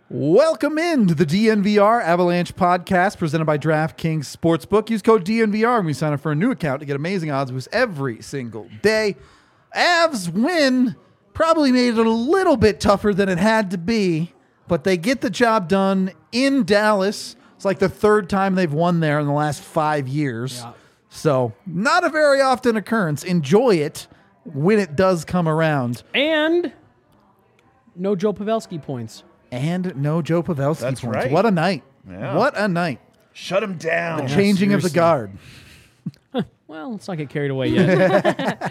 Welcome into the DNVR Avalanche podcast presented by DraftKings Sportsbook. Use code DNVR when we sign up for a new account to get amazing odds boosts every single day. Avs win probably made it a little bit tougher than it had to be, but they get the job done in Dallas. It's like the third time they've won there in the last 5 years. Yeah. So not a very often occurrence. Enjoy it when it does come around. And no Joe Pavelski points. And no Joe Pavelski That's points. right. What a night. Yeah. What a night. Shut him down. The changing of the guard. Well, let's not get carried away yet.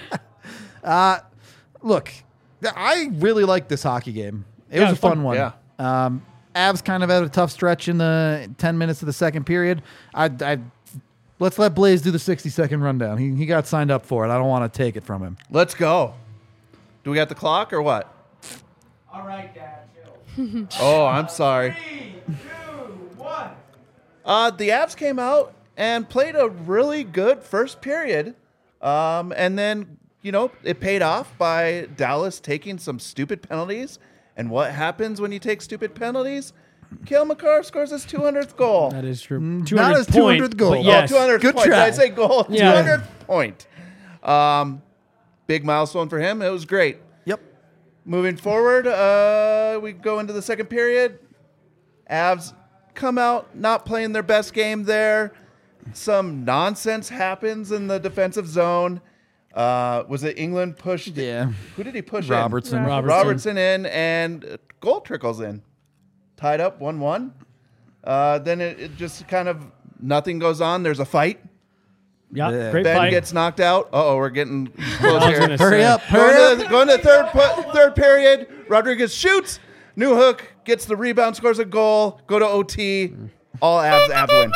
Look, I really liked this hockey game. It was a fun one. Yeah. Avs kind of had a tough stretch in the 10 minutes of the second period. Let's let Blaze do the 60-second rundown. He got signed up for it. I don't want to take it from him. Let's go. Do we got the clock or what? All right, Dad. Oh, I'm sorry. 3, 2, 1. The Avs came out and played a really good first period. And then, it paid off by Dallas taking some stupid penalties. And what happens when you take stupid penalties? Cale Makar scores his 200th goal. That is true. Not his 200th 200th goal. But yes. 200th Good point. try. Did I say goal? Yeah. 200th point. Big milestone for him. It was great. Yep. Moving forward, we go into the second period. Avs come out not playing their best game there. Some nonsense happens in the defensive zone. Was it England pushed? Yeah. Who did he push Robertson. in? Robertson in, and goal trickles in. Tied up 1-1. Then it just kind of nothing goes on. There's a fight. Yeah, great Ben fight. gets knocked out. We're getting close I was here. gonna Hurry say. up. Hurry up. Going to third period. Rodriguez shoots. Newhook gets the rebound, scores a goal. Go to OT. All Avs win.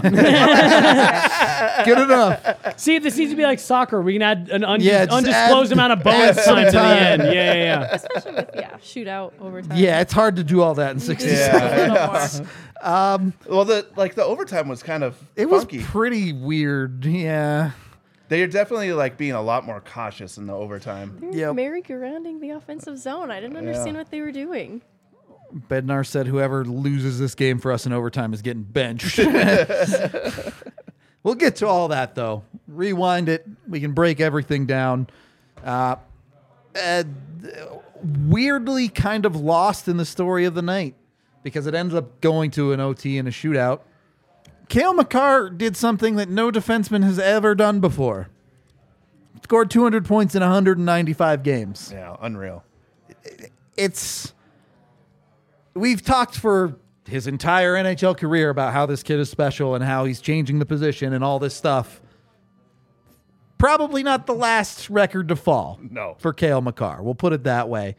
Good enough. See, this needs to be like soccer. We can add an just undisclosed add- amount of bonus add some time to the time. end. Yeah. Especially with, shootout overtime. Yeah, it's hard to do all that in 60 seconds. Yeah. Well, the overtime was kind of It was funky. pretty weird. Yeah. They are definitely being a lot more cautious in the overtime. They were Yep. merry-go-rounding the offensive zone. I didn't understand what they were doing. Bednar said whoever loses this game for us in overtime is getting benched. We'll get to all that, though. Rewind it. We can break everything down. Weirdly kind of lost in the story of the night because it ends up going to an OT and a shootout. Cale Makar did something that no defenseman has ever done before. Scored 200 points in 195 games. Yeah, unreal. We've talked for his entire NHL career about how this kid is special and how he's changing the position and all this stuff. Probably not the last record to fall for Cale Makar. We'll put it that way.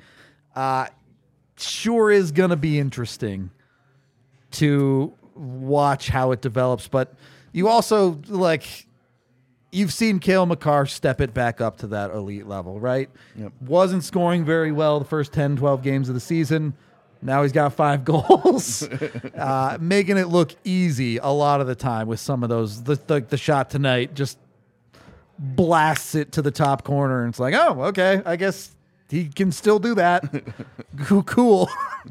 Sure is going to be interesting to watch how it develops, but you also, you've seen Cale Makar step it back up to that elite level, right? Yep. Wasn't scoring very well the first 10, 12 games of the season. Now he's got 5 goals, making it look easy a lot of the time with some of those. The shot tonight just blasts it to the top corner, and it's like, oh, okay, I guess he can still do that. Cool.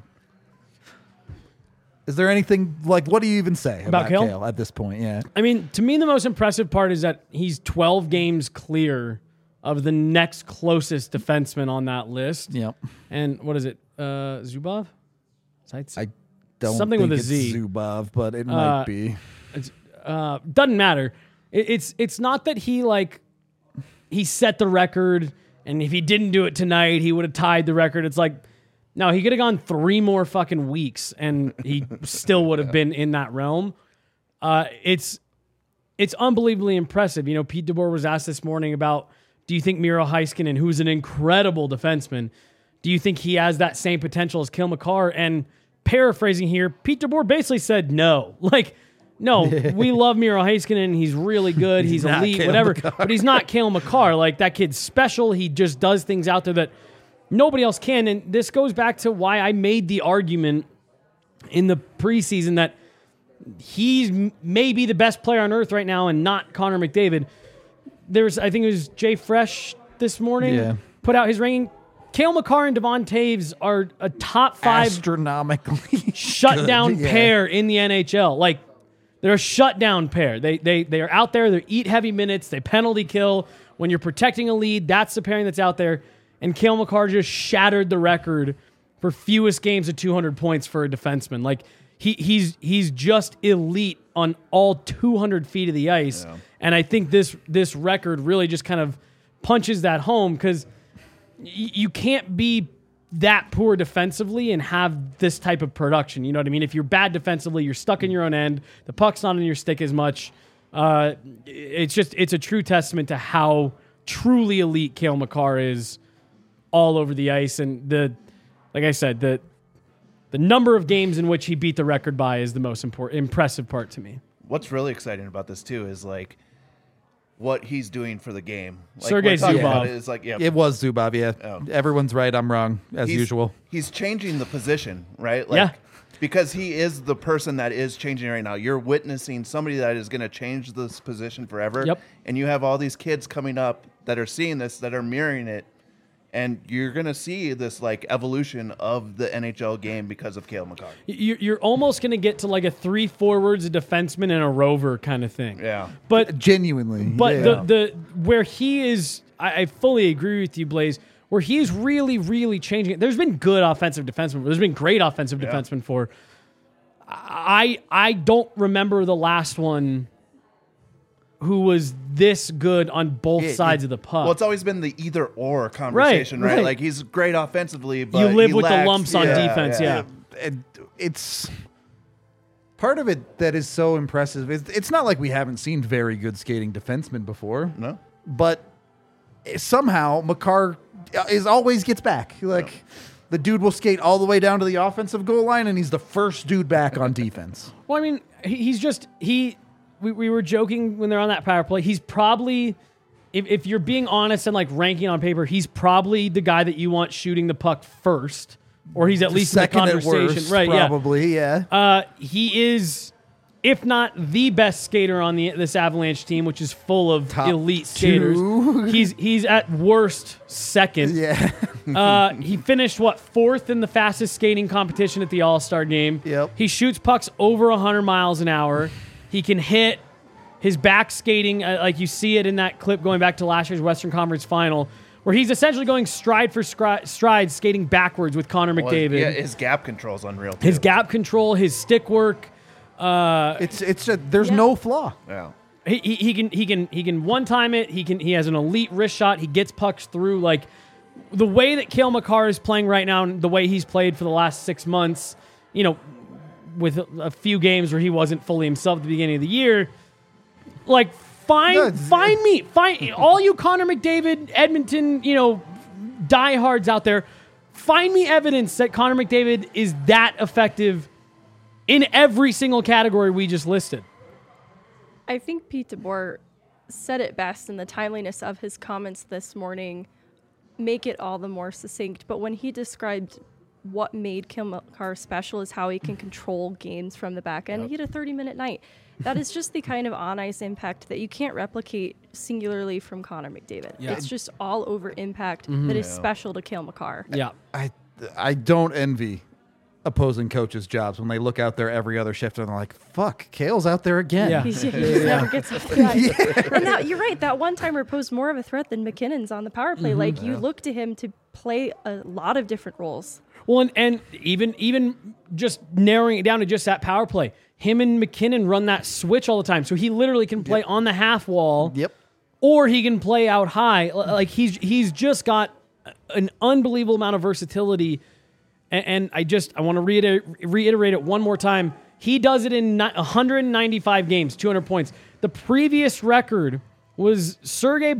Is there anything, what do you even say about Cale at this point? Yeah. I mean, to me, the most impressive part is that he's 12 games clear of the next closest defenseman on that list. Yep. And what is it? Zubov? I don't Something think with a it's Z. Zubov, but it might be. Doesn't matter. It's not that he set the record, and if he didn't do it tonight, he would have tied the record. It's like, no, he could have gone 3 more fucking weeks, and he still would have been in that realm. It's unbelievably impressive. Pete DeBoer was asked this morning about, do you think Miro Heiskanen, who's an incredible defenseman, do you think he has that same potential as Cale Makar? And paraphrasing here, Pete DeBoer basically said no. No, we love Miro Heiskanen. He's really good. He's elite, Cale whatever. Makar. But he's not Cale Makar. That kid's special. He just does things out there that nobody else can. And this goes back to why I made the argument in the preseason that he's maybe the best player on earth right now and not Connor McDavid. I think it was Jay Fresh this morning put out his ranking. Cale Makar and Devon Taves are a top 5 Astronomically shutdown good, yeah. pair in the NHL. Like, they're a shutdown pair. They are out there. They eat heavy minutes. They penalty kill. When you're protecting a lead, that's the pairing that's out there. And Cale Makar just shattered the record for fewest games of 200 points for a defenseman. Like, he's just elite on all 200 feet of the ice. Yeah. And I think this record really just kind of punches that home, because you can't be that poor defensively and have this type of production. You know what I mean? If you're bad defensively, you're stuck in your own end. The puck's not in your stick as much. It's a true testament to how truly elite Cale Makar is all over the ice. And like I said, the number of games in which he beat the record by is the most impressive part to me. What's really exciting about this too is like what he's doing for the game. Like, Sergei Zubov. It's like, yeah, It was Zubov, yeah. Oh. Everyone's right. I'm wrong, as usual. He's changing the position, right? Like, Yeah. Because he is the person that is changing right now. You're witnessing somebody that is going to change this position forever. Yep. And you have all these kids coming up that are seeing this, that are mirroring it. And you're going to see this like evolution of the NHL game because of Cale Makar. You're almost going to get to like a 3 forwards, a defenseman, and a rover kind of thing. Yeah. But Genuinely. But yeah. the where he is, I fully agree with you, Blaze, where he's really, really changing it. There's been good offensive defensemen. There's been great offensive defensemen for. I don't remember the last one who was this good on both sides of the puck. Well, it's always been the either or conversation, right? right. Like he's great offensively, but you live he with lacks, the lumps on defense, yeah. And it's part of it that is so impressive. It's not like we haven't seen very good skating defensemen before. No. But somehow Makar always gets back. Like the dude will skate all the way down to the offensive goal line, and he's the first dude back on defense. Well, I mean, we were joking when they're on that power play. He's probably, if you're being honest and like ranking on paper, he's probably the guy that you want shooting the puck first, or he's at least Second in the at conversation, worst, right? probably, yeah. He is, if not the best skater on this Avalanche team, which is full of Top elite skaters. 2. He's at worst second. Yeah. He finished, 4th in the fastest skating competition at the All-Star game. Yep. He shoots pucks over 100 miles an hour. He can hit. His back skating, like you see it in that clip going back to last year's Western Conference Final, where he's essentially going stride for stride, skating backwards with Connor McDavid. Yeah, his gap control is unreal, too. His gap control, his stick work. There's no flaw. Yeah. He can one time it. He has an elite wrist shot. He gets pucks through. Like the way that Cale Makar is playing right now, and the way he's played for the last 6 months, you know, with a few games where he wasn't fully himself at the beginning of the year. Like find all you Connor McDavid, Edmonton, diehards out there. Find me evidence that Connor McDavid is that effective in every single category we just listed. I think Pete DeBoer said it best in the timeliness of his comments this morning, make it all the more succinct. But when he described what made Cale Makar special is how he can control games from the back end. He had a 30-minute night. That is just the kind of on-ice impact that you can't replicate singularly from Connor McDavid. Yeah. It's just all-over impact that is special to Cale Makar. Yeah. I don't envy opposing coaches' jobs when they look out there every other shift and they're like, fuck, Cale's out there again. Yeah. He just never gets off the ice. And now, you're right, that one-timer posed more of a threat than McKinnon's on the power play. Like, you look to him to play a lot of different roles. Well, and even just narrowing it down to just that power play, him and McKinnon run that switch all the time. So he literally can play on the half wall. Yep. Or he can play out high. Like he's just got an unbelievable amount of versatility. And I want to reiterate it one more time. He does it in 195 games, 200 points. The previous record was Sergei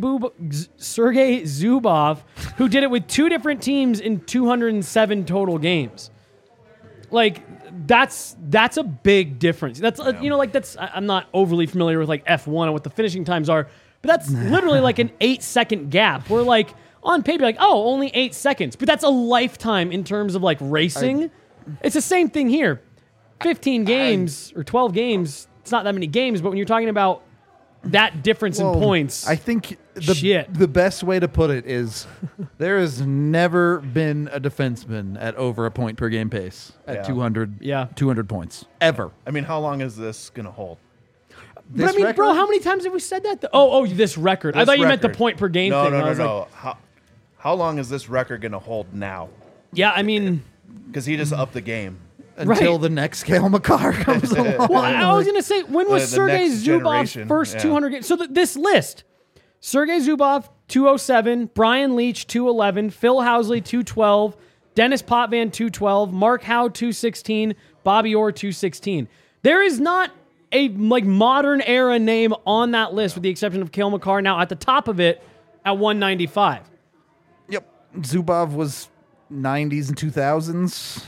Zubov, who did it with 2 different teams in 207 total games. Like that's a big difference. That's I'm not overly familiar with like F1 and what the finishing times are, but that's literally like an 8-second gap. We're like on paper like, oh, only 8 seconds, but that's a lifetime in terms of like racing. It's the same thing here. 15 games or 12 games. It's not that many games, but when you're talking about that difference in points. I think Shit. The best way to put it is there has never been a defenseman at over a point per game pace at Yeah. 200 points ever. I mean, how long is this going to hold? But I mean, bro, how many times have we said that? This record. I This thought you meant the record. point per game No, thing. no, I no, was like, no. How long is this record going to hold now? yeah, I mean, Because he just upped the game. until right. the next Cale Makar comes along. well, I was going to say, when was The Sergei next Zubov's generation, first yeah. 200 games? So this list, Sergei Zubov, 207, Brian Leach, 211, Phil Housley, 212, Dennis Potvin, 212, Mark Howe, 216, Bobby Orr, 216. There is not a modern era name on that list with the exception of Cale Makar now at the top of it at 195. Yep. Zubov was 90s and 2000s.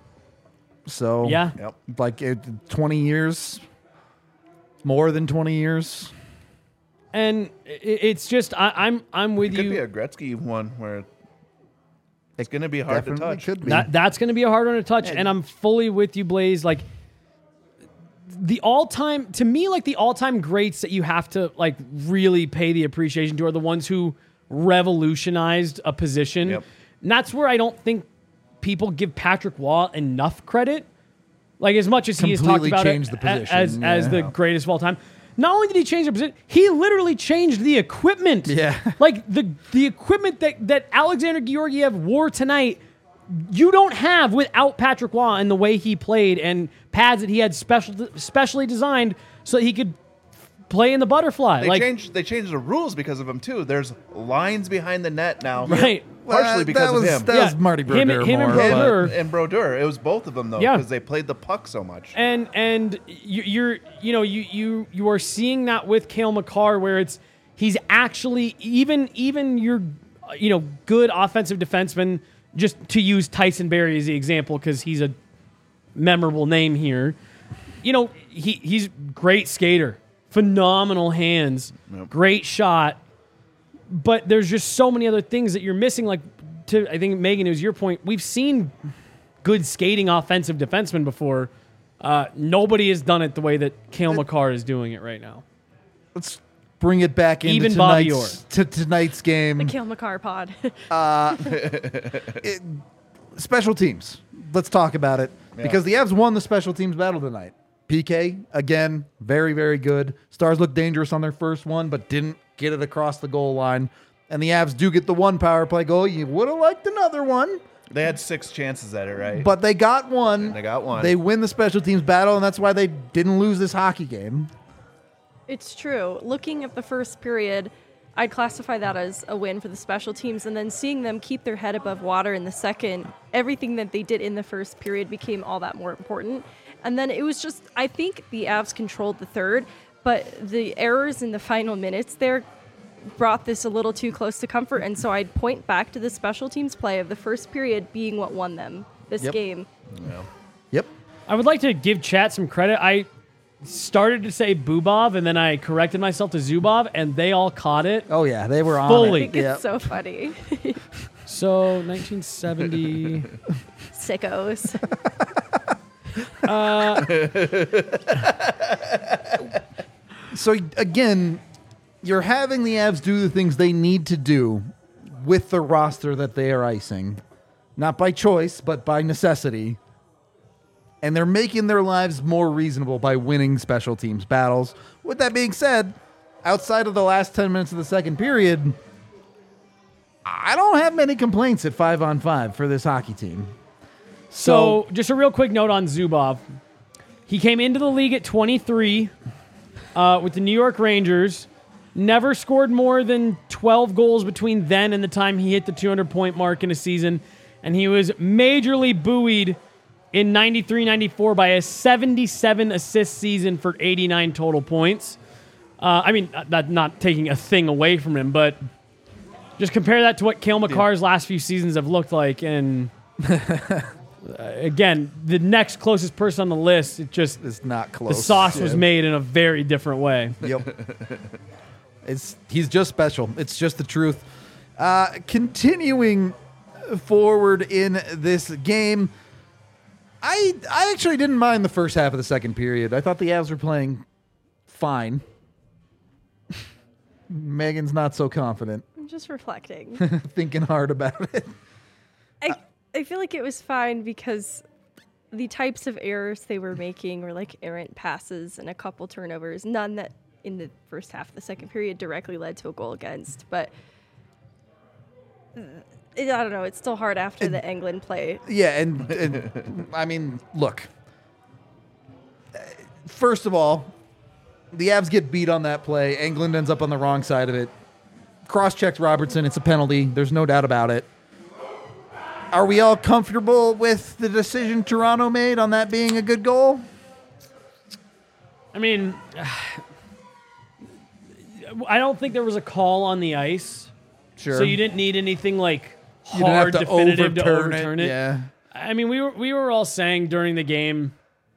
So, Yeah. Yep. like 20 years, more than 20 years. And it's just I'm with It could you. be a Gretzky one where it's going to be hard to Definitely touch. could be. That's going to be a hard one to touch, and I'm fully with you, Blaze. Like the all-time greats that you have to really pay the appreciation to are the ones who revolutionized a position. Yep. And that's where I don't think people give Patrick Waugh enough credit. Like as much as he has talked Completely about changed it the position, as the greatest of all time. Not only did he change the position, he literally changed the equipment. Yeah. Like the equipment that Alexander Georgiev wore tonight, you don't have without Patrick Waugh and the way he played and pads that he had specially designed so that he could play in the butterfly. They changed the rules because of him too. There's lines behind the net now. Right. Partially because of him. That was Yeah. Marty Him- Brodeur him and more, but- Brodeur. And Brodeur. It was both of them though, Yeah. because they played the puck so much. And you are seeing that with Cale Makar where he's actually even your good offensive defenseman, just to use Tyson Barrie as the example because he's a memorable name here. He's great skater, phenomenal hands, great shot, but there's just so many other things that you're missing. Like I think Megan, it was your point. We've seen good skating offensive defensemen before. Nobody has done it the way that Cale Makar is doing it right now. Let's bring it back into Even Bobby tonight's game. The Cale Makar pod. Special teams. Let's talk about it because the Avs won the special teams battle tonight. PK, again, very, very good. Stars looked dangerous on their first one, but didn't get it across the goal line. And the Avs do get the one power play goal. You would have liked another one, They had 6 chances at it, right? but they got one. They got one. They win the special teams battle, and that's why they didn't lose this hockey game. It's true. Looking at the first period, I'd classify that as a win for the special teams, and then seeing them keep their head above water in the second, everything that they did in the first period became all that more important. And then it was just, I think the Avs controlled the third, but the errors in the final minutes there brought this a little too close to comfort, and so I'd point back to the special teams play of the first period being what won them this Yep. game. Yep. I would like to give chat some credit. I started to say Bubov, and then I corrected myself to Zubov, and they all caught it. Oh, yeah. They were on Fully. I it. think Yep. it's so funny. So 1970. Sickos. So again, you're having the Avs do the things they need to do with the roster that they are icing, not by choice, but by necessity. And they're making their lives more reasonable by winning special teams battles. With that being said, outside of the last 10 minutes of the second period, I don't have many complaints at 5-on-5 for this hockey team. So, just a real quick note on Zubov. He came into the league at 23 with the New York Rangers. Never scored more than 12 goals between then and the time he hit the 200-point mark in a season. And he was majorly buoyed in 93-94 by a 77-assist season for 89 total points. I mean, not taking a thing away from him, but just compare that to what Cale Makar's last few seasons have looked like. And again, the next closest person on the list, It's not close. the sauce was Yeah. made in a very different way. Yep. He's just special. It's just the truth. Continuing forward in this game, I actually didn't mind the first half of the second period. I thought the Avs were playing fine. Megan's not so confident, I'm just reflecting. thinking hard about it. I feel like it was fine because the types of errors they were making were like errant passes and a couple turnovers, none that in the first half of the second period directly led to a goal against. But I don't know. It's still hard after the England play. Yeah, and I mean, look. First of all, the Avs get beat on that play. England ends up on the wrong side of it. Cross-checked Robertson. It's a penalty. There's no doubt about it. Are we all comfortable with the decision Toronto made on that being a good goal? I mean, I don't think there was a call on the ice. Sure. So you didn't need anything like You didn't have hard, to definitive to overturn it. Yeah. I mean, we were all saying during the game,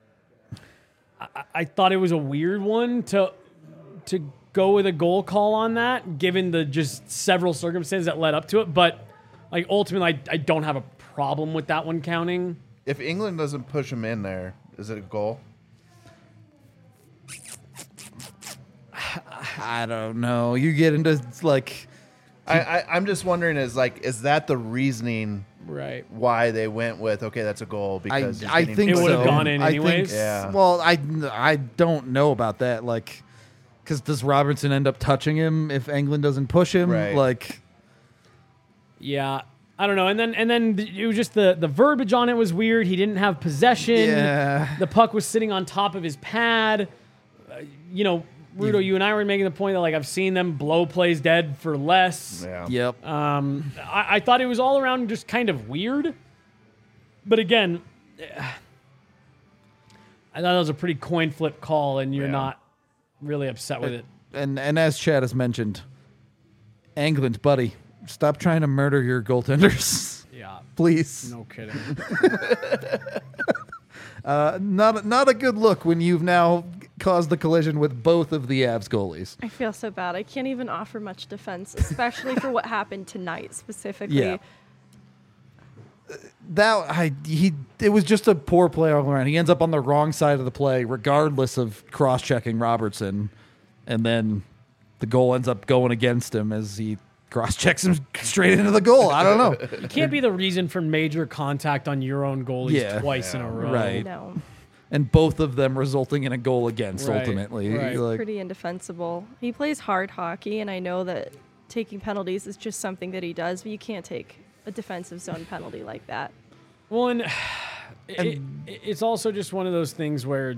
I thought it was a weird one to go with a goal call on that, given the just several circumstances that led up to it. But like ultimately, I don't have a problem with that one counting. If England doesn't push him in there, is it a goal? I don't know. You get into like I'm just wondering, is that the reasoning Right. why they went with, okay, that's a goal? Because I think It so. would've gone in I think- anyways? Yeah. Well, I don't know about that. Like, because does Robertson end up touching him if England doesn't push him? Right. Like, Yeah. I don't know. And then it was just the verbiage on it was weird. He didn't have possession. Yeah. The puck was sitting on top of his pad. Rudo, you and I were making the point that like I've seen them blow plays dead for less. Yeah. yep. I thought it was all around just kind of weird. But again, I thought it was a pretty coin flip call, and you're Yeah. not really upset with it. And as Chad has mentioned, England, buddy, stop trying to murder your goaltenders, Yeah. please. No kidding. Not a good look when you've now caused the collision with both of the Avs goalies. I feel so bad. I can't even offer much defense, especially for what happened tonight specifically. Yeah. It was just a poor play all around. He ends up on the wrong side of the play, regardless of cross-checking Robertson, and then the goal ends up going against him as he cross-checks him straight into the goal. I don't know. You can't be the reason for major contact on your own goalies Yeah. twice in a row. Right. No, And both of them resulting in a goal against. Right, Ultimately, right. Like, pretty indefensible. He plays hard hockey, and I know that taking penalties is just something that he does, but you can't take a defensive zone penalty like that. Well, and it's also just one of those things where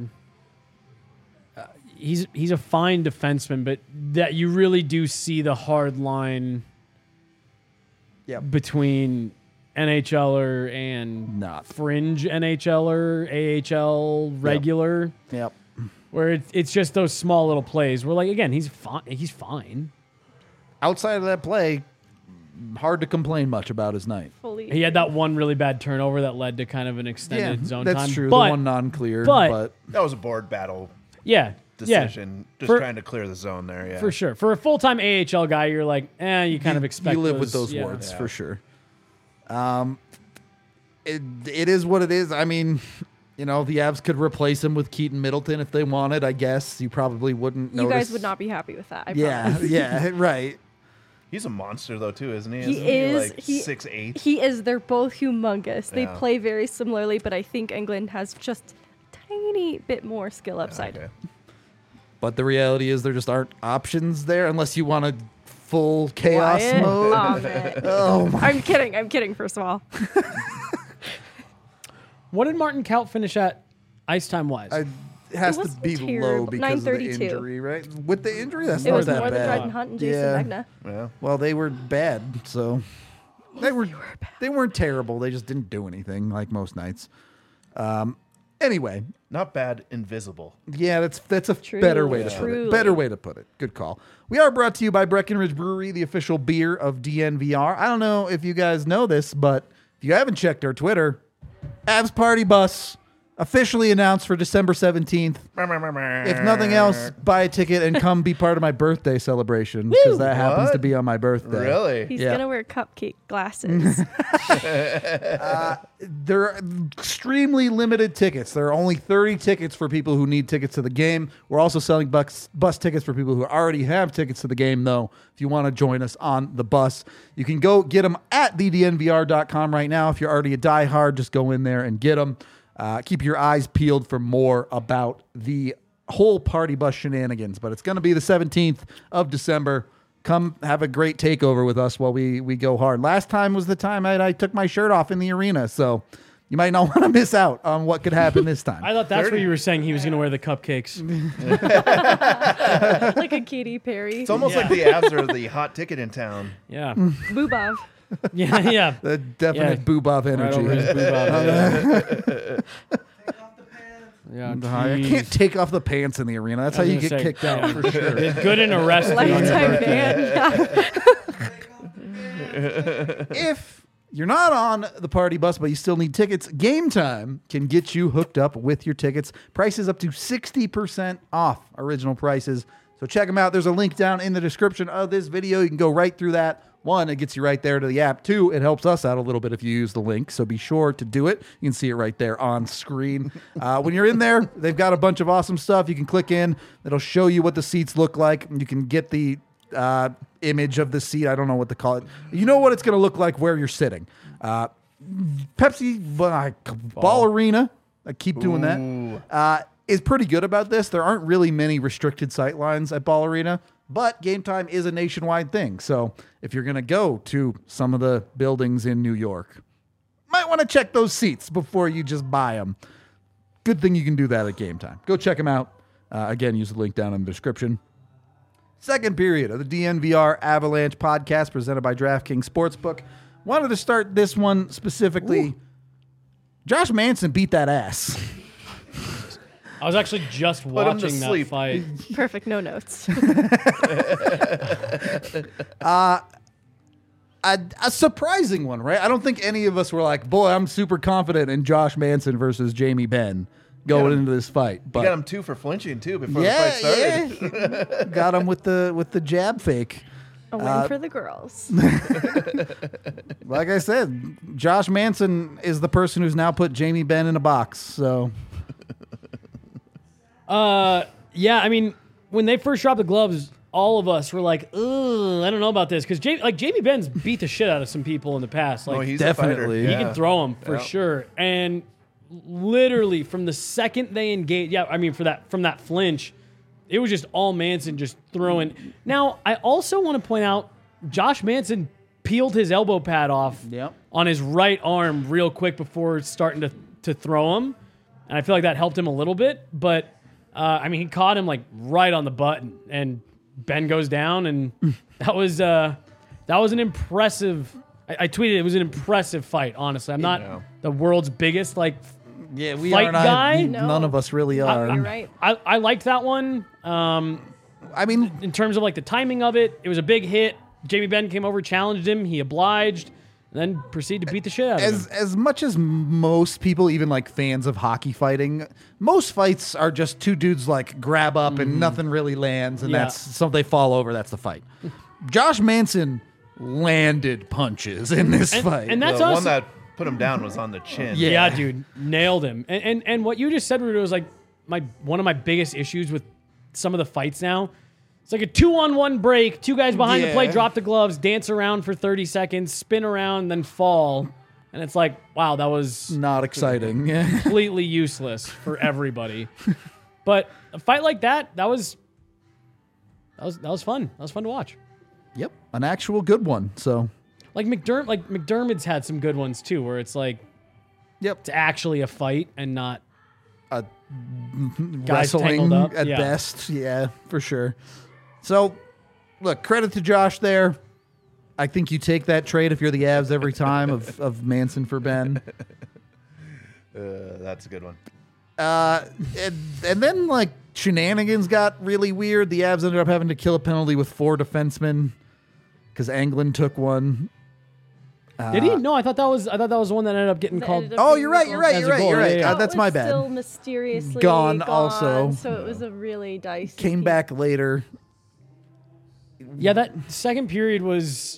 he's a fine defenseman, but that you really do see the hard line Yep. between NHLer and Not. fringe NHLer, AHL regular, Yep. where it's just those small little plays where, like, again, he's fine. He's fine. Outside of that play, hard to complain much about his night. Fully. He had that one really bad turnover that led to kind of an extended zone that's time. true. But, the one non-clear, but- but That was a board battle yeah, decision. Just For- trying to clear the zone there. Yeah. for sure. For a full-time AHL guy, you're like, you kind of expect you live with those yeah. words Yeah. for sure. It is what it is. I mean, the Avs could replace him with Keaton Middleton if they wanted. I guess you probably wouldn't. You notice. guys would not be happy with that. I Yeah, promise. yeah, right. He's a monster though too, isn't he? He Isn't is. like He- 6'8". He is. They're both humongous. They Yeah. play very similarly, but I think England has just a tiny bit more skill upside. Okay. But the reality is there just aren't options there unless you want a full chaos Wyatt? mode. Aw, man. Oh my! I'm kidding. I'm kidding. First of all, What did Martin Kaut finish at ice time wise? It has It to wasn't be low terrible. because of the 932. injury, right? With the injury, that's it not was that more than bad. Dryden Hunt and Jason Yeah. Megna. Yeah. Well, they were bad, so they weren't terrible. They just didn't do anything like most nights. Anyway, Not bad. Invisible. yeah, that's a Truly, better way to put it. truly. Better way to put it. Good call. We are brought to you by Breckenridge Brewery, the official beer of DNVR. I don't know if you guys know this, but if you haven't checked our Twitter, Avs Party Bus Officially announced for December 17th. If nothing else, buy a ticket and come be part of my birthday celebration because that happens to What? be on my birthday. Really? He's Yeah. gonna wear cupcake glasses. There are extremely limited tickets. There are only 30 tickets for people who need tickets to the game. We're also selling bus tickets for people who already have tickets to the game, though. If you want to join us on the bus, you can go get them at thednvr.com right now. If you're already a diehard, just go in there and get them. Keep your eyes peeled for more about the whole party bus shenanigans. But it's going to be the 17th of December. Come have a great takeover with us while we go hard. Last time was the time I took my shirt off in the arena, so you might not want to miss out on what could happen this time. I thought that's where you were saying he was going to wear the cupcakes. Like a Katy Perry. It's almost like the Avs are the hot ticket in town. Yeah. Boobov. Yeah, yeah. The definite Yeah. Boobov Right energy. over his boob out there. Take off the pants. Yeah, I geez. can't take off the pants in the arena. That's how I was you get gonna say, kicked out yeah. for sure. Good and arrested on your Lifetime birthday. ban. Yeah. Take off the pants. If you're not on the party bus, but you still need tickets, Game Time can get you hooked up with your tickets. Prices up to 60% off original prices. So check them out. There's a link down in the description of this video. You can go right through that. One, it gets you right there to the app. Two, it helps us out a little bit if you use the link. So be sure to do it. You can see it right there on screen. When you're in there, they've got a bunch of awesome stuff. You can click in. It'll show you what the seats look like. You can get the image of the seat. I don't know what to call it. You know what it's going to look like where you're sitting. Pepsi Ball Arena. I keep doing that. Is pretty good about this. There aren't really many restricted sight lines at Ball Arena, but Game Time is a nationwide thing. So if you're going to go to some of the buildings in New York, might want to check those seats before you just buy them. Good thing you can do that at Game Time. Go check them out. Again, use the link down in the description. Second period of the DNVR Avalanche podcast presented by DraftKings Sportsbook. Wanted to start this one specifically. Ooh. Josh Manson beat that ass. I was actually just him to watching that sleep. fight. Perfect. No notes. A surprising one, right? I don't think any of us were like, boy, I'm super confident in Josh Manson versus Jamie Benn going into this fight. But You got him 2 for flinching too before the fight started. yeah. Got him with the jab fake. A win for the girls. Like I said, Josh Manson is the person who's now put Jamie Benn in a box. So Yeah, I mean, when they first dropped the gloves, all of us were like, ugh, I don't know about this. Because Jamie Benn's beat the shit out of some people in the past. Like, He's definitely. A fighter. he can throw them for Yeah. sure. And literally from the second they engaged, from that flinch, it was just all Manson just throwing. Now, I also want to point out, Josh Manson peeled his elbow pad off Yep. on his right arm real quick before starting to throw him. And I feel like that helped him a little bit. But, he caught him like right on the button. And Ben goes down. And that was an impressive... I tweeted it was an impressive fight, honestly. I'm not the world's biggest, we fight are guy? None of us really are. You're right. I liked that one. I mean, In terms of like the timing of it, it was a big hit. Jamie Benn came over, challenged him. He obliged, and then proceeded to beat the shit out of him. as much as most people, even like fans of hockey fighting, most fights are just two dudes like grab up and nothing really lands, and Yeah. that's so they fall over. That's the fight. Josh Manson landed punches in this fight. And that's The us. one that put him down was on the chin. Yeah. Yeah, dude, nailed him. And what you just said, Rudo, was like one of my biggest issues with some of the fights now. It's like a 2-on-1 break. Two guys behind the plate, drop the gloves, dance around for 30 seconds, spin around, then fall. And it's like, wow, that was not exciting. Yeah. completely useless for everybody. But a fight like that was fun. That was fun to watch. Yep, an actual good one. So, Like McDermott's had some good ones too, where it's like it's actually a fight and not a guys wrestling tangled up. at Yeah. best. Yeah, for sure. So, look, credit to Josh there. I think you take that trade if you're the Avs every time of Manson for Ben. That's a good one. And then, like, shenanigans got really weird. The Avs ended up having to kill a penalty with 4 defensemen because Anglin took one. Did he? No, I thought that was the one that ended up getting That called. ended up Oh, being you're the right. goal. You're right. As You're a right. goal, You're right. yeah, yeah. That's That my was bad. Still mysteriously Gone gone also. So it was a really dicey. Came game. back later. Yeah, that second period was.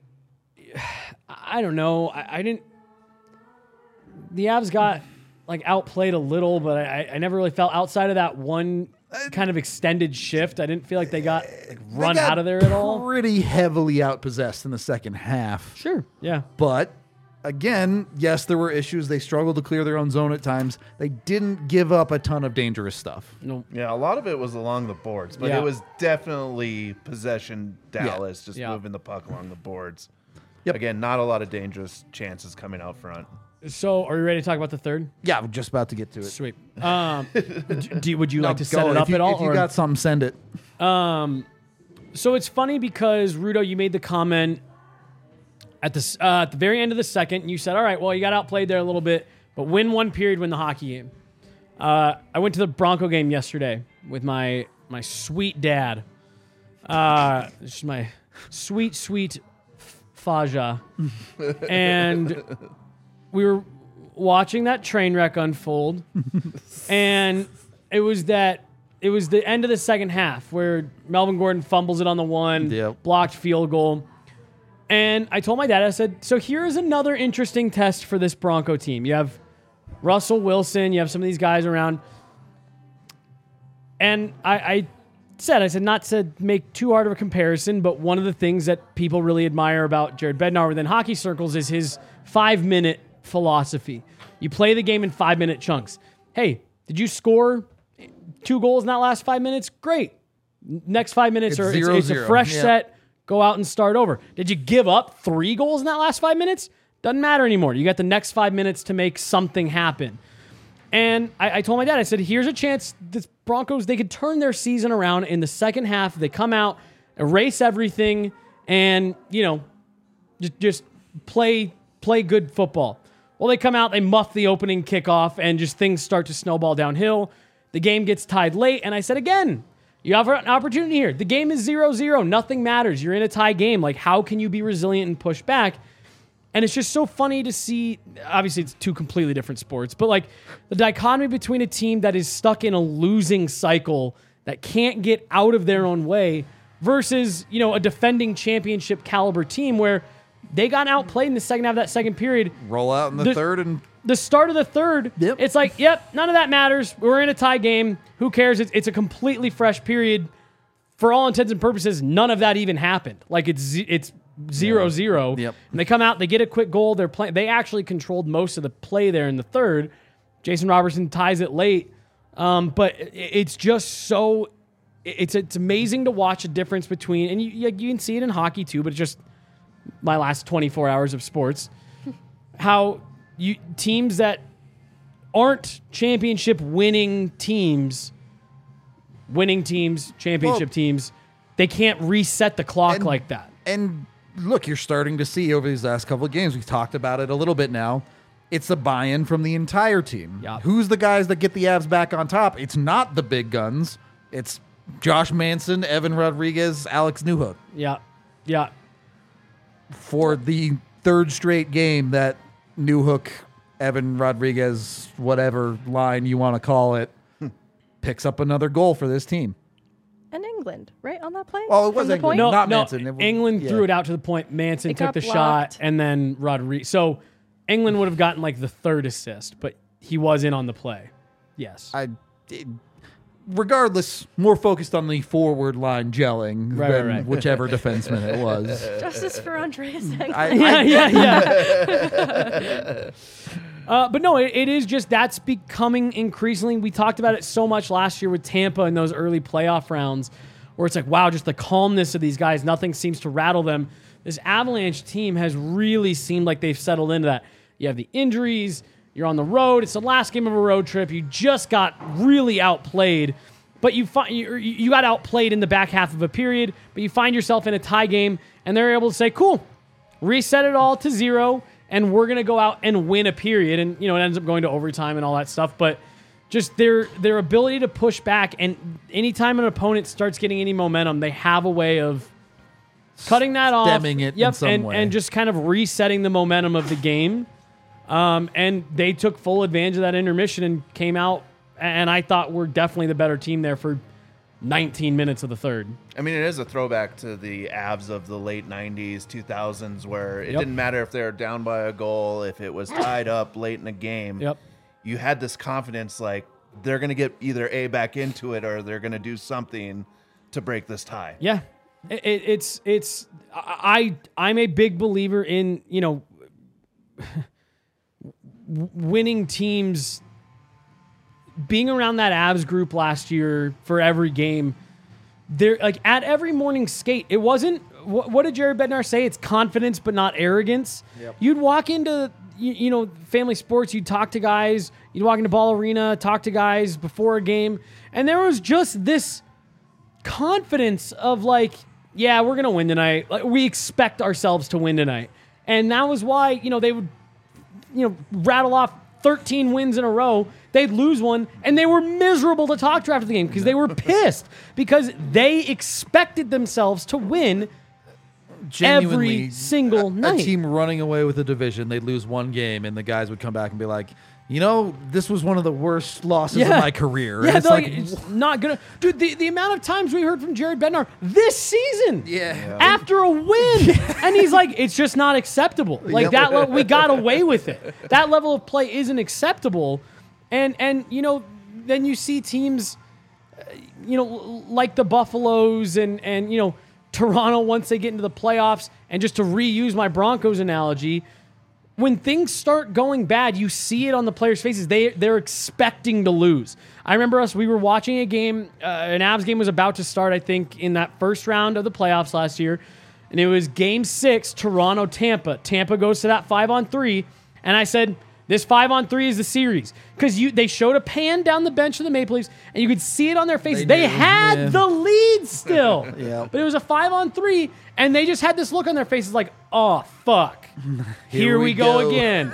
I don't know. I didn't. The Avs got like outplayed a little, but I never really felt outside of that one kind of extended shift. I didn't feel like they got like run They got out of there at all. Pretty heavily outpossessed in the second half. Sure. Yeah. But again, yes, there were issues. They struggled to clear their own zone at times. They didn't give up a ton of dangerous stuff. No. Yeah, a lot of it was along the boards, but Yeah. it was definitely possession Dallas just Yeah. moving the puck along the boards. Yep. Again, not a lot of dangerous chances coming out front. So, are you ready to talk about the third? Yeah, we're just about to get to it. Sweet. Would you like to set Go. it up if you, at all? If you or- got something, send it. So it's funny because Rudo, you made the comment at the very end of the second. And you said, "All right, well, you got outplayed there a little bit, but win one period, win the hockey game." I went to the Bronco game yesterday with my sweet dad. This is my sweet Faja, and we were watching that train wreck unfold, and it was the end of the second half where Melvin Gordon fumbles it on the one, Yep. blocked field goal. And I told my dad, I said, so here's another interesting test for this Bronco team. You have Russell Wilson, you have some of these guys around. And I said, not to make too hard of a comparison, but one of the things that people really admire about Jared Bednar within hockey circles is his 5-minute philosophy. You play the game in 5-minute chunks. Hey, did you score 2 goals in that last 5 minutes? Great. Next 5 minutes, It's or 0-0. it's a fresh Yeah. set. Go out and start over. Did you give up 3 goals in that last 5 minutes? Doesn't matter anymore. You got the next 5 minutes to make something happen. And I told my dad, I said, here's a chance the Broncos, they could turn their season around in the second half. They come out, erase everything, and, just play good football. Well, they come out, they muff the opening kickoff, and just things start to snowball downhill. The game gets tied late, and I said, again, you have an opportunity here. The game is 0-0. Nothing matters. You're in a tie game. Like, how can you be resilient and push back? And it's just so funny to see, obviously it's 2 completely different sports, but like the dichotomy between a team that is stuck in a losing cycle that can't get out of their own way versus, a defending championship caliber team where they got outplayed in the second half of that second period. Roll out in the third and The start of the third, Yep. it's like, none of that matters. We're in a tie game. Who cares? It's a completely fresh period. For all intents and purposes, none of that even happened. Like it's 0-0. Yep. And they come out, they get a quick goal. They actually controlled most of the play there in the third. Jason Robertson ties it late. But it's just so it's amazing to watch a difference between, and you can see it in hockey too, but it's just my last 24 hours of sports. How teams that aren't championship winning teams, championship teams, they can't reset the clock like that. And look, you're starting to see over these last couple of games, we've talked about it a little bit now, it's a buy-in from the entire team. Yeah. Who's the guys that get the Avs back on top? It's not the big guns. It's Josh Manson, Evan Rodriguez, Alex Newhook. Yeah. For the third straight game that Newhook, Evan Rodriguez, whatever line you want to call it, picks up another goal for this team. And England, right, on that play? Oh, it was From the England. point? No, Not no. Manson. It was- England yeah. threw it out to the point. Manson It took got the shot, blocked. and then Rodriguez. So England would have gotten like the third assist, but he was in on the play. Yes. Regardless, more focused on the forward line gelling Right, than right. whichever defenseman it was. Justice for Andreas Englund. Yeah. But no, it is just that's becoming increasingly. We talked about it so much last year with Tampa in those early playoff rounds where it's like, wow, just the calmness of these guys. Nothing seems to rattle them. This Avalanche team has really seemed like they've settled into that. You have the injuries. You're on the road. It's the last game of a road trip. You just got really outplayed. But you got outplayed in the back half of a period, but you find yourself in a tie game, and they're able to say, cool, reset it all to 0, and we're going to go out and win a period. And, it ends up going to overtime and all that stuff. But just their ability to push back, and anytime an opponent starts getting any momentum, they have a way of cutting that off, stemming it in some way. and just kind of resetting the momentum of the game. And they took full advantage of that intermission and came out, and I thought we're definitely the better team there for 19 minutes of the third. I mean, it is a throwback to the Avs of the late 90s, 2000s, where it Yep. didn't matter if they were down by a goal, if it was tied up late in the game. Yep. You had this confidence like they're going to get either A, back into it, or they're going to do something to break this tie. Yeah, I'm a big believer in, winning teams. Being around that Avs group last year for every game, they're like at every morning skate. It wasn't what did Jared Bednar say? It's confidence, but not arrogance. Yep. You'd walk into family sports. You'd talk to guys. You'd walk into Ball Arena, talk to guys before a game, and there was just this confidence of like, yeah, we're gonna win tonight. Like, we expect ourselves to win tonight, and that was why they would rattle off 13 wins in a row. They'd lose one, and they were miserable to talk to after the game because they were pissed because they expected themselves to win Genuinely, every single night. A team running away with a division, they'd lose one game, and the guys would come back and be like, this was one of the worst losses of my career. Yeah, And it's they're like, it's not gonna. Dude, the amount of times we heard from Jared Bednar this season, after a win, and he's like, it's just not acceptable. Like Yep. that, we got away with it. That level of play isn't acceptable, and then you see teams, like the Buffaloes and Toronto once they get into the playoffs, and just to reuse my Broncos analogy. When things start going bad, you see it on the players' faces. They're expecting to lose. I remember we were watching a game, an Avs game was about to start, I think, in that first round of the playoffs last year, and it was Game 6, Toronto-Tampa. Tampa goes to that 5-on-3, and I said, this 5-on-3 is the series. Because they showed a pan down the bench of the Maple Leafs, and you could see it on their faces. They knew, had yeah. the lead still. Yeah. But it was a 5-on-3, and they just had this look on their faces like, oh, fuck. Here we go again.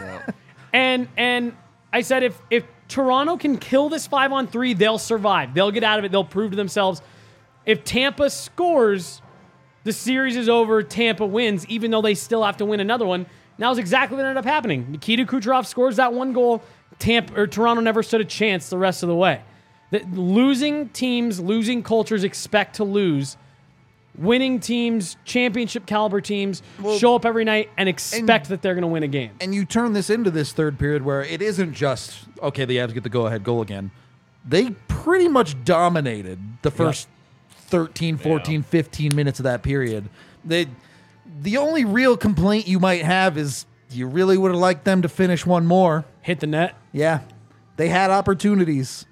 And I said, if Toronto can kill this 5-on-3, they'll survive. They'll get out of it. They'll prove to themselves. If Tampa scores, the series is over. Tampa wins, even though they still have to win another one. And that was exactly what ended up happening. Nikita Kucherov scores that one goal. Toronto never stood a chance the rest of the way. Losing teams, losing cultures expect to lose. Winning teams, championship caliber teams, show up every night and expect that they're going to win a game. And you turn this into this third period where it isn't just, okay, the Avs get the go-ahead goal again. They pretty much dominated the first 13, 14, 15 minutes of that period. The only real complaint you might have is you really would have liked them to finish one more. Hit the net. Yeah. They had opportunities.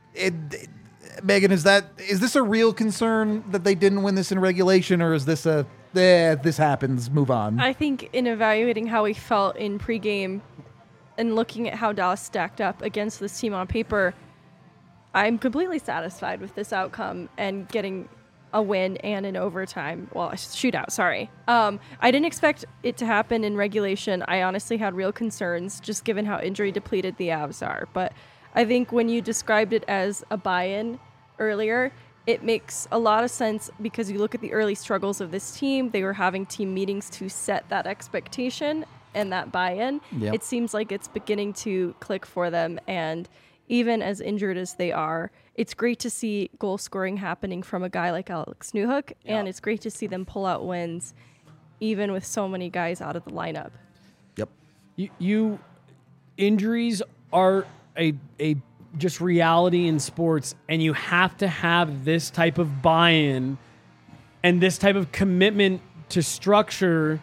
Megan, is this a real concern that they didn't win this in regulation, or is this this happens, move on? I think in evaluating how we felt in pregame and looking at how Dallas stacked up against this team on paper, I'm completely satisfied with this outcome and getting a win and an overtime. Well, a shootout, sorry. I didn't expect it to happen in regulation. I honestly had real concerns just given how injury depleted the Avs are. But I think when you described it as a buy-in earlier, it makes a lot of sense because you look at the early struggles of this team. They were having team meetings to set that expectation and that buy-in. Yep. It seems like it's beginning to click for them. And even as injured as they are, it's great to see goal scoring happening from a guy like Alex Newhook. And it's great to see them pull out wins, even with so many guys out of the lineup. Yep. You injuries are a just reality in sports, and you have to have this type of buy-in and this type of commitment to structure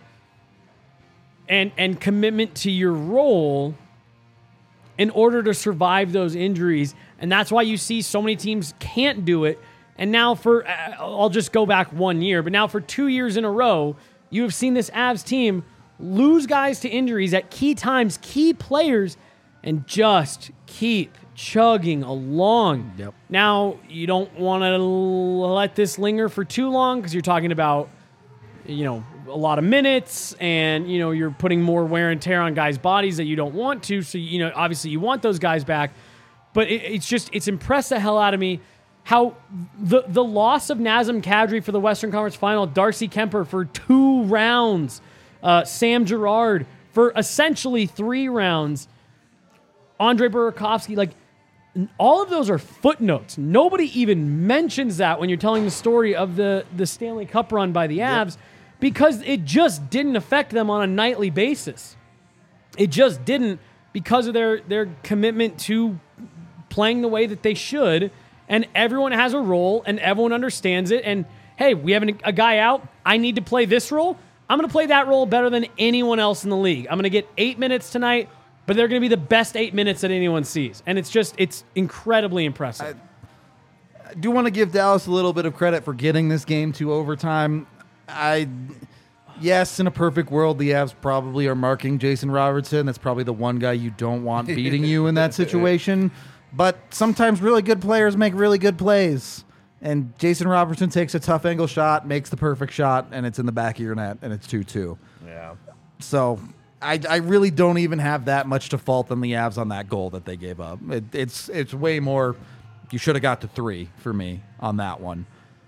and commitment to your role in order to survive those injuries. And that's why you see so many teams can't do it. And now I'll just go back 1 year, but now for 2 years in a row, you have seen this Avs team lose guys to injuries at key times, key players, and just keep chugging along. Yep. Now, you don't want to let this linger for too long because you're talking about, a lot of minutes and, you're putting more wear and tear on guys' bodies that you don't want to. So, obviously you want those guys back. But it's impressed the hell out of me how the loss of Nazem Kadri for the Western Conference Final, Darcy Kemper for 2 rounds, Sam Girard for essentially 3 rounds, Andre Burakovsky, like all of those are footnotes. Nobody even mentions that when you're telling the story of the Stanley Cup run by the Avs because it just didn't affect them on a nightly basis. It just didn't because of their commitment to playing the way that they should, and everyone has a role and everyone understands it. And hey, we have a guy out. I need to play this role. I'm going to play that role better than anyone else in the league. I'm going to get 8 minutes tonight, but they're going to be the best 8 minutes that anyone sees. And it's incredibly impressive. I do want to give Dallas a little bit of credit for getting this game to overtime. Yes, in a perfect world, the Avs probably are marking Jason Robertson. That's probably the one guy you don't want beating you in that situation. But sometimes really good players make really good plays. And Jason Robertson takes a tough angle shot, makes the perfect shot, and it's in the back of your net, and it's 2-2. Yeah. So I really don't even have that much to fault on the Avs on that goal that they gave up. It's way more. You should have got to 3 for me on that one.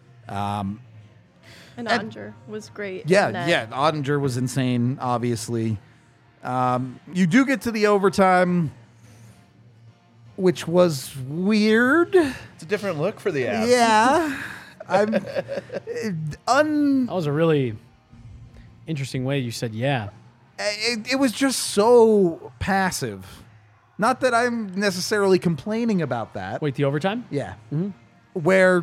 And Ottinger was great. in Yeah, net. yeah. Ottinger was insane, obviously. You do get to the overtime, which was weird. It's a different look for the Avs. Yeah. That was a really interesting way you said, yeah. It was just so passive. Not that I'm necessarily complaining about that. Wait, the overtime? Yeah. Where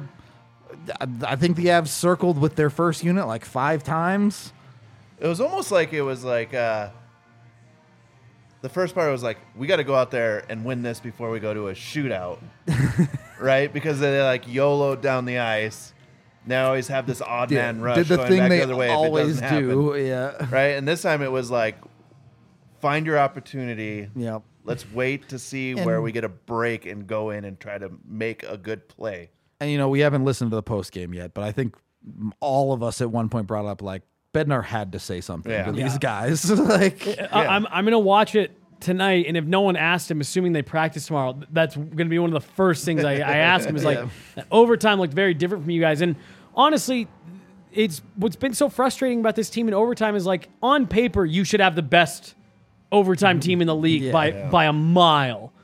I think the Avs circled with their first unit like 5 times. It was almost like the first part was like, we got to go out there and win this before we go to a shootout, right? Because they like YOLO down the ice. They always have this odd man rush Did the going thing back they the other way always if it doesn't do. happen, Yeah. right? And this time it was like, find your opportunity. Yep. Let's wait to see where we get a break and go in and try to make a good play. And, we haven't listened to the post game yet, but I think all of us at one point brought up, like, Bednar had to say something Yeah. to these guys. Like, I'm going to watch it tonight, and if no one asked him, assuming they practice tomorrow, that's going to be one of the first things I ask him is like, overtime looked very different from you guys. And honestly, it's what's been so frustrating about this team in overtime is like, on paper, you should have the best overtime team in the league by a mile.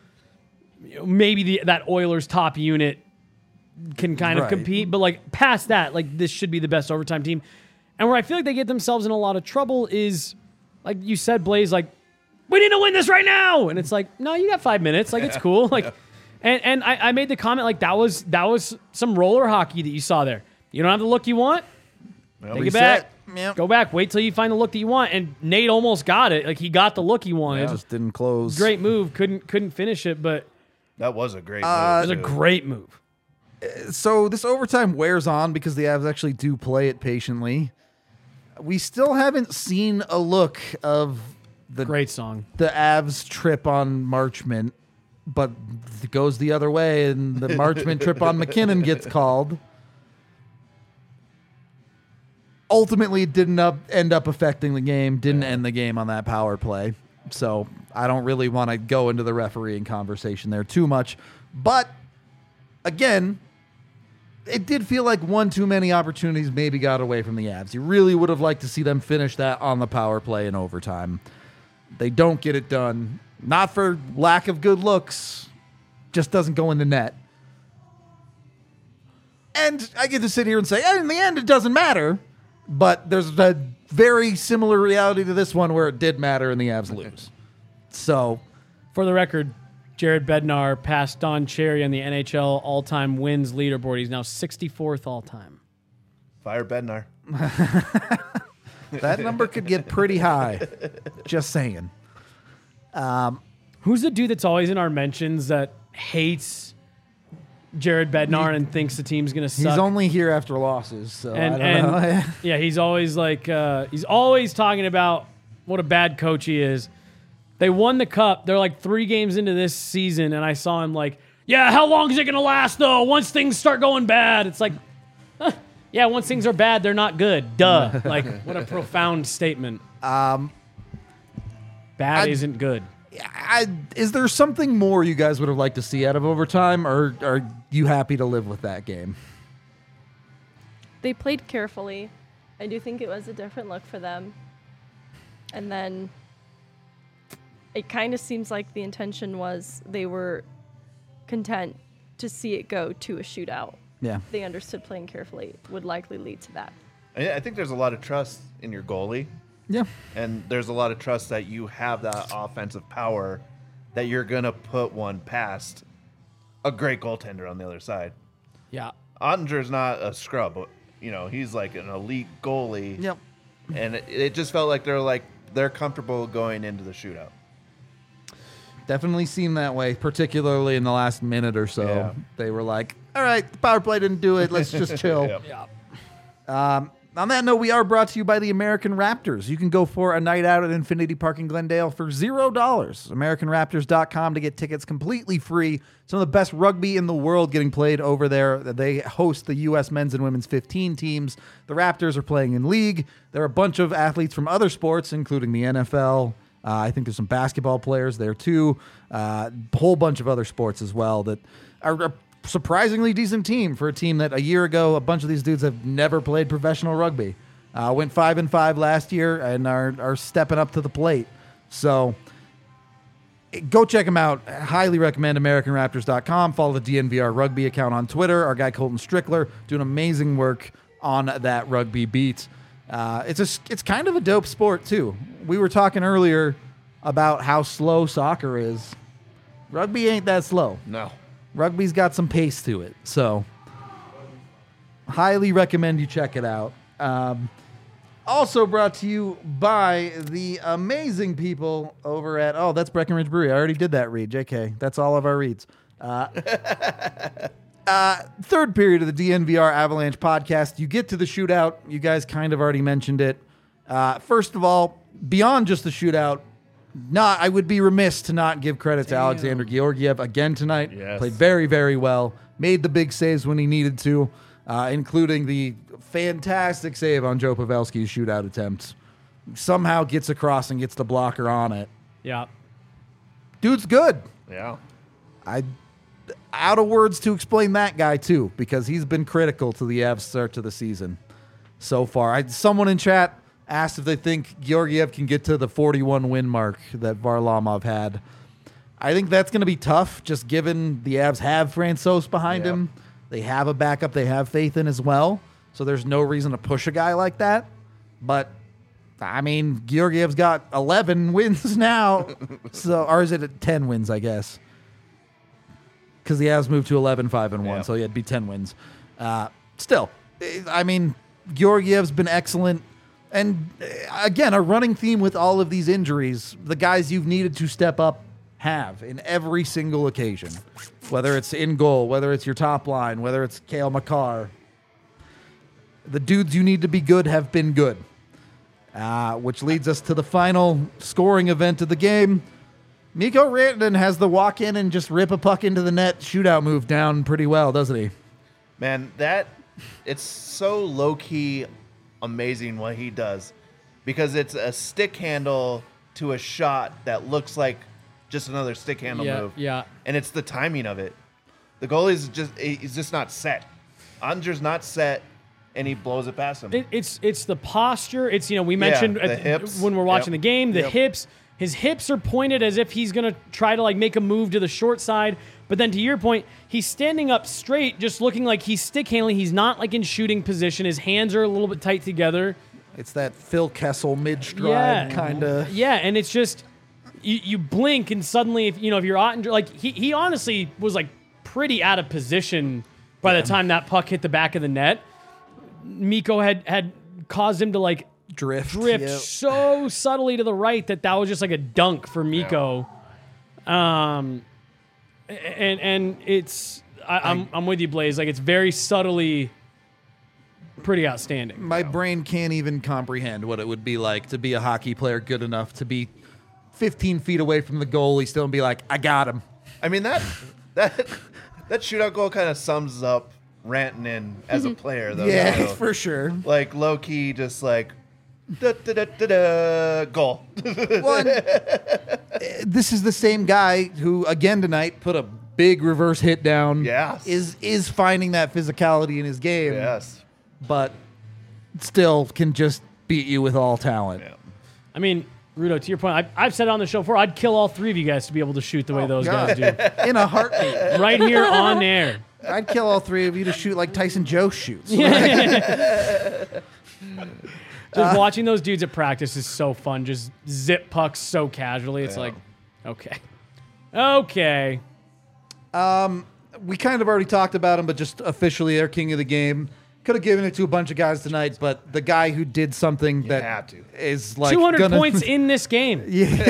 Maybe that Oilers top unit can kind of compete, but like past that, like this should be the best overtime team. And where I feel like they get themselves in a lot of trouble is, like you said, Blaze, like, we need to win this right now. And it's like, no, you got 5 minutes. Like, it's cool. Like, and I made the comment, like, that was some roller hockey that you saw there. You don't have the look you want? Take it back. Yep. Go back. Wait till you find the look that you want. And Nate almost got it. Like, he got the look he wanted. It just didn't close. Great move. Couldn't finish it, but That was a great it move. was a too. great move. So this overtime wears on because the Avs actually do play it patiently. We still haven't seen a look of Great song. the Avs trip on Marchment, but it goes the other way, and the Marchment trip on McKinnon gets called. Ultimately, it didn't end up affecting the game, didn't end the game on that power play. So I don't really want to go into the refereeing conversation there too much. But again, it did feel like one too many opportunities maybe got away from the Avs. You really would have liked to see them finish that on the power play in overtime. They don't get it done. Not for lack of good looks. Just doesn't go in the net. And I get to sit here and say, in the end, it doesn't matter. But there's a very similar reality to this one where it did matter and the Avs lose. So, For the record, Jared Bednar passed Don Cherry on the NHL all-time wins leaderboard. He's now 64th all-time. Fire Bednar. that number could get pretty high. Just saying. Who's the dude that's always in our mentions that hates Jared Bednar and thinks the team's going to suck? He's only here after losses, so I don't and know. yeah, he's always like, he's always talking about what a bad coach he is. They won the cup. They're like 3 games into this season, and I saw him like, yeah, how long is it going to last, though? Once things start going bad. It's like, yeah, once things are bad, they're not good. Duh. Like, what a profound statement. Bad isn't good. Is there something more you guys would have liked to see out of overtime, or are you happy to live with that game? They played carefully. I do think it was a different look for them. And then it kind of seems like the intention was they were content to see it go to a shootout. Yeah. They understood playing carefully would likely lead to that. I think there's a lot of trust in your goalie. Yeah. And there's a lot of trust that you have that offensive power that you're going to put one past a great goaltender on the other side. Yeah. Ottinger's not a scrub. You know, he's like an elite goalie. Yep. And it just felt like they're comfortable going into the shootout. Definitely seemed that way, particularly in the last minute or so. Yeah. They were like, all right, the power play didn't do it. Let's just chill. Yep. Yeah. On that note, we are brought to you by the American Raptors. You can go for a night out at Infinity Park in Glendale for $0. AmericanRaptors.com to get tickets completely free. Some of the best rugby in the world getting played over there. They host the U.S. men's and women's 15 teams. The Raptors are playing in league. There are a bunch of athletes from other sports, including the NFL. I think there's some basketball players there too. A whole bunch of other sports as well that are a surprisingly decent team for a team that a year ago a bunch of these dudes have never played professional rugby. Went 5-5 last year and are stepping up to the plate. So go check them out. Highly recommend AmericanRaptors.com. Follow the DNVR rugby account on Twitter. Our guy Colton Strickler doing amazing work on that rugby beat. It's kind of a dope sport too. We were talking earlier about how slow soccer is. Rugby ain't that slow. No. Rugby's got some pace to it, so highly recommend you check it out. Also brought to you by the amazing people over at, that's Breckenridge Brewery. I already did that read, JK. That's all of our reads. Third period of the DNVR Avalanche podcast. You get to the shootout. You guys kind of already mentioned it. First of all, beyond just the shootout, I would be remiss to not give credit to Alexander Georgiev again tonight. Yes. Played very, very well. Made the big saves when he needed to, including the fantastic save on Joe Pavelski's shootout attempt. Somehow gets across and gets the blocker on it. Yeah. Dude's good. Yeah. Out of words to explain that guy too, because he's been critical to the Avs start to the season so far. Someone in chat asked if they think Georgiev can get to the 41 win mark that Varlamov had. I think that's going to be tough, just given the Avs have Francouz behind Yep. him. They have a backup they have faith in as well, so there's no reason to push a guy like that. But I mean, Georgiev's got 11 wins now, or is it at 10 wins? I guess. Because the Avs moved to 11-5-1, Yeah. so he'd be 10 wins. Still, I mean, Georgiev's been excellent. And again, a running theme with all of these injuries, the guys you've needed to step up have in every single occasion. Whether it's in goal, whether it's your top line, whether it's Cale Makar. The dudes you need to be good have been good. Which leads us to the final scoring event of the game. Mikko Rantanen has the walk in and just rip a puck into the net shootout move down pretty well, doesn't he? Man, it's so low-key amazing what he does, because it's a stick handle to a shot that looks like just another stick handle move. Yeah. And it's the timing of it. The goalie's he's just not set. Ottinger's not set, and he blows it past him. It's the posture. It's, we mentioned the hips. when we're watching Yep. the game, the Yep. hips. His hips are pointed as if he's going to try to make a move to the short side. But then to your point, he's standing up straight, just looking like he's stick handling. He's not in shooting position. His hands are a little bit tight together. It's that Phil Kessel mid-stride kind of. Yeah, and it's just you blink and suddenly if you're Ottinger, he honestly was pretty out of position by the time that puck hit the back of the net. Mikko had caused him to Drift. Yep. so subtly to the right that was just like a dunk for Mikko. And it's I'm with you, Blaze. It's very subtly pretty outstanding. My brain can't even comprehend what it would be like to be a hockey player good enough to be 15 feet away from the goalie still and be like, I got him. I mean, that shootout goal kind of sums up Rantanen as a player, though. Yeah, So, for sure. low key, just goal. Well, this is the same guy who, again tonight, put a big reverse hit down. Yes. Is finding that physicality in his game. Yes. But still can just beat you with all talent. Yeah. I mean, Rudo, to your point, I've said on the show before, I'd kill all three of you guys to be able to shoot the way those guys do. In a heartbeat. Right here on air. I'd kill all three of you to shoot like Tyson Joe shoots. Just watching those dudes at practice is so fun. Just zip pucks so casually. It's like, okay. Okay. We kind of already talked about him, but just officially their king of the game. Could have given it to a bunch of guys tonight, but the guy who did something that had to. is like 200 points in this game.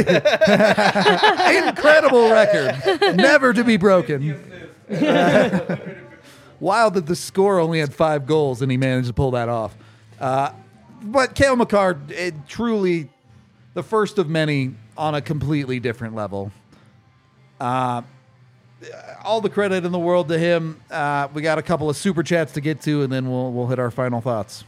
Incredible record, never to be broken. Wild that the score only had 5 goals and he managed to pull that off. But Cale Makar, truly the first of many on a completely different level. All the credit in the world to him. We got a couple of super chats to get to, and then we'll hit our final thoughts.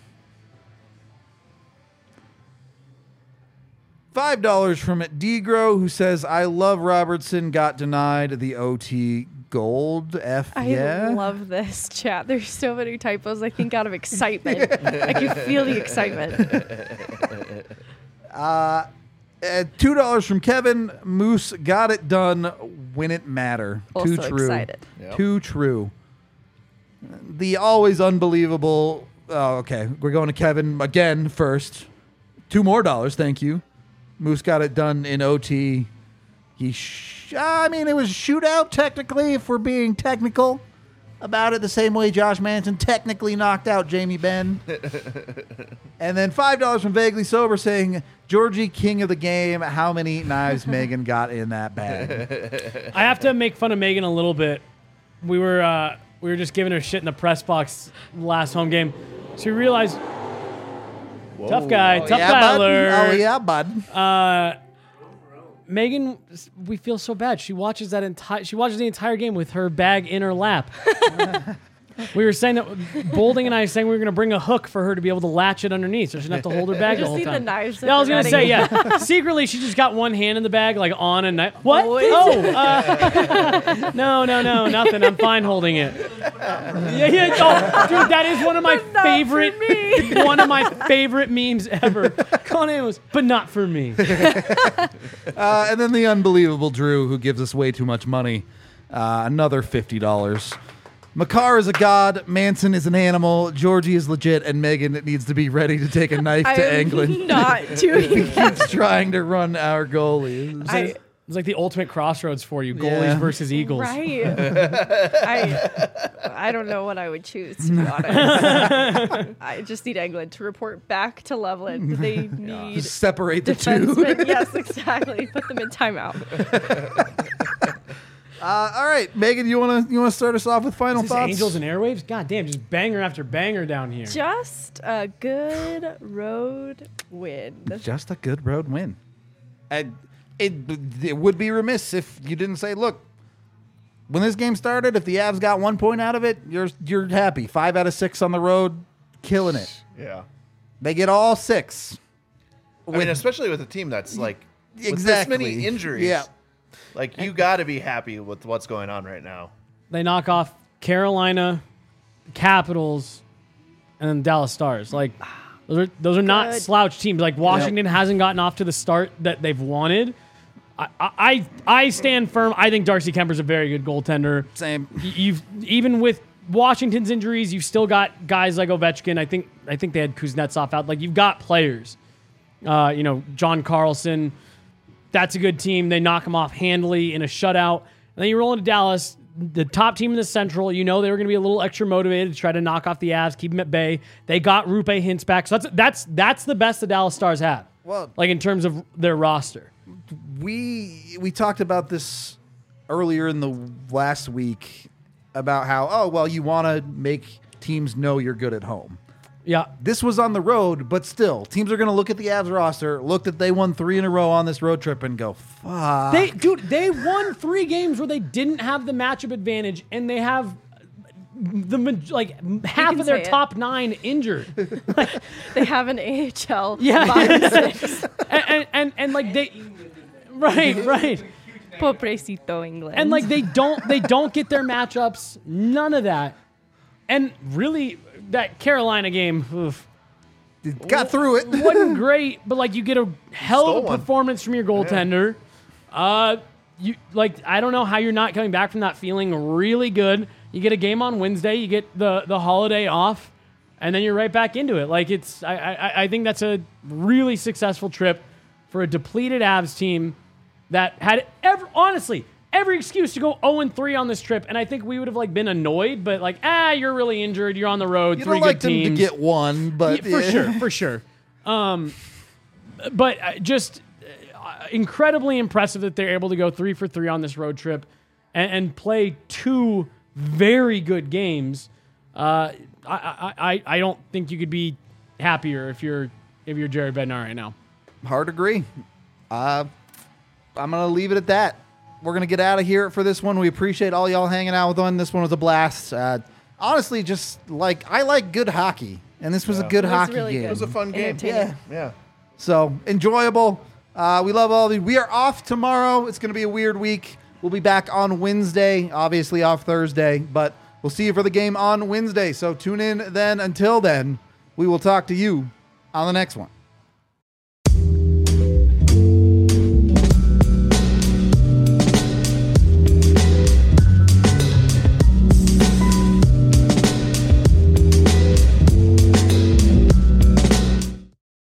$5 from Degro, who says, "I love Robertson. Got denied the OT gold. I love this chat. There's so many typos. I think out of excitement. I can feel the excitement. $2 from Kevin. Moose got it done when it mattered. Also Too true. excited. Yep. Too true. The always unbelievable. Oh, okay. We're going to Kevin again first. $2 more. Thank you. Moose got it done in OT. It was a shootout technically, if we're being technical about it, the same way Josh Manson technically knocked out Jamie Benn. And then $5 from Vaguely Sober saying, "Georgie, king of the game. How many knives Megan got in that bag?" I have to make fun of Megan a little bit. We were just giving her shit in the press box last home game. So we realized, tough guy bud. alert. Oh, yeah, bud. Megan, we feel so bad. She watches the entire game with her bag in her lap. We were saying that Bolding and I saying we were going to bring a hook for her to be able to latch it underneath, so she doesn't have to hold her bag the Just whole see the time. knives. Yeah, I was going gonna say, yeah. Secretly, she just got one hand in the bag, like on a knife. What? Always. No, nothing. I'm fine holding it. Yeah. Oh, dude, that is one of my But not for favorite, me. one of my favorite memes ever. Conan was, but not for me. And then the unbelievable Drew, who gives us way too much money. Another $50. Makar is a god, Manson is an animal, Georgie is legit, and Megan needs to be ready to take a knife I to am England. not doing that. Keeps trying to run our goalie. It's like the ultimate crossroads for you, goalies Yeah. versus Eagles. Right. I don't know what I would choose, to be honest. I just need England to report back to Loveland. They need Just separate the two. defensemen. Yes, exactly. Put them in timeout. All right, Megan, you wanna start us off with final Is this thoughts? Angels and Airwaves? God damn, just banger after banger down here. Just a good road win. Just a good road win. It would be remiss if you didn't say, look, when this game started, if the Avs got 1 point out of it, you're happy. 5 out of 6 on the road, killing it. Yeah. They get all 6. I mean, especially with a team that's like with this Exactly. many injuries. Yeah. Like, you got to be happy with what's going on right now. They knock off Carolina, Capitals, and then Dallas Stars. Like, those are not Good. slouch teams. Like, Washington hasn't gotten off to the start that they've wanted. I stand firm. I think Darcy Kemper's a very good goaltender. Same. You've even with Washington's injuries, you've still got guys like Ovechkin. I think they had Kuznetsov out. Like, you've got players. John Carlson. That's a good team. They knock them off handily in a shutout. And then you roll into Dallas, the top team in the Central. You know they were going to be a little extra motivated to try to knock off the Avs, keep them at bay. They got Rupe Hintz back. So that's the best the Dallas Stars have. Well, like in terms of their roster. we talked about this earlier in the last week about how, you want to make teams know you're good at home. Yeah. This was on the road, but still, teams are going to look at the Avs roster, look that they won 3 in a row on this road trip, and go, fuck. They won 3 games where they didn't have the matchup advantage, and they have half of their say it. top 9 injured. They have an AHL Yeah. bottom 6. and like they Right. Pobrecito England. And like they don't get their matchups, none of that. And really, that Carolina game, oof, Got through it. wasn't great, but like you get a hell Stole of a one. performance from your goaltender. You like I don't know how you're not coming back from that feeling really good. You get a game on Wednesday, you get the holiday off, and then you're right back into it. Like it's I think that's a really successful trip for a depleted Avs team that had every excuse to go 0-3 on this trip, and I think we would have like been annoyed, but like you're really injured, you're on the road, You three don't like good them teams. to get one, but Yeah, for sure. But just incredibly impressive that they're able to go 3 for 3 on this road trip and play 2 very good games. I don't think you could be happier if you're Jared Bednar right now. Hard to agree. I'm going to leave it at that. We're going to get out of here for this one. We appreciate all y'all hanging out with us. This one was a blast. Honestly, just like I like good hockey, and this was a good was hockey really game. good. It was a fun game. Entertaining. Yeah. So enjoyable. We love all of you. We are off tomorrow. It's going to be a weird week. We'll be back on Wednesday, obviously off Thursday, but we'll see you for the game on Wednesday. So tune in then. Until then, we will talk to you on the next one.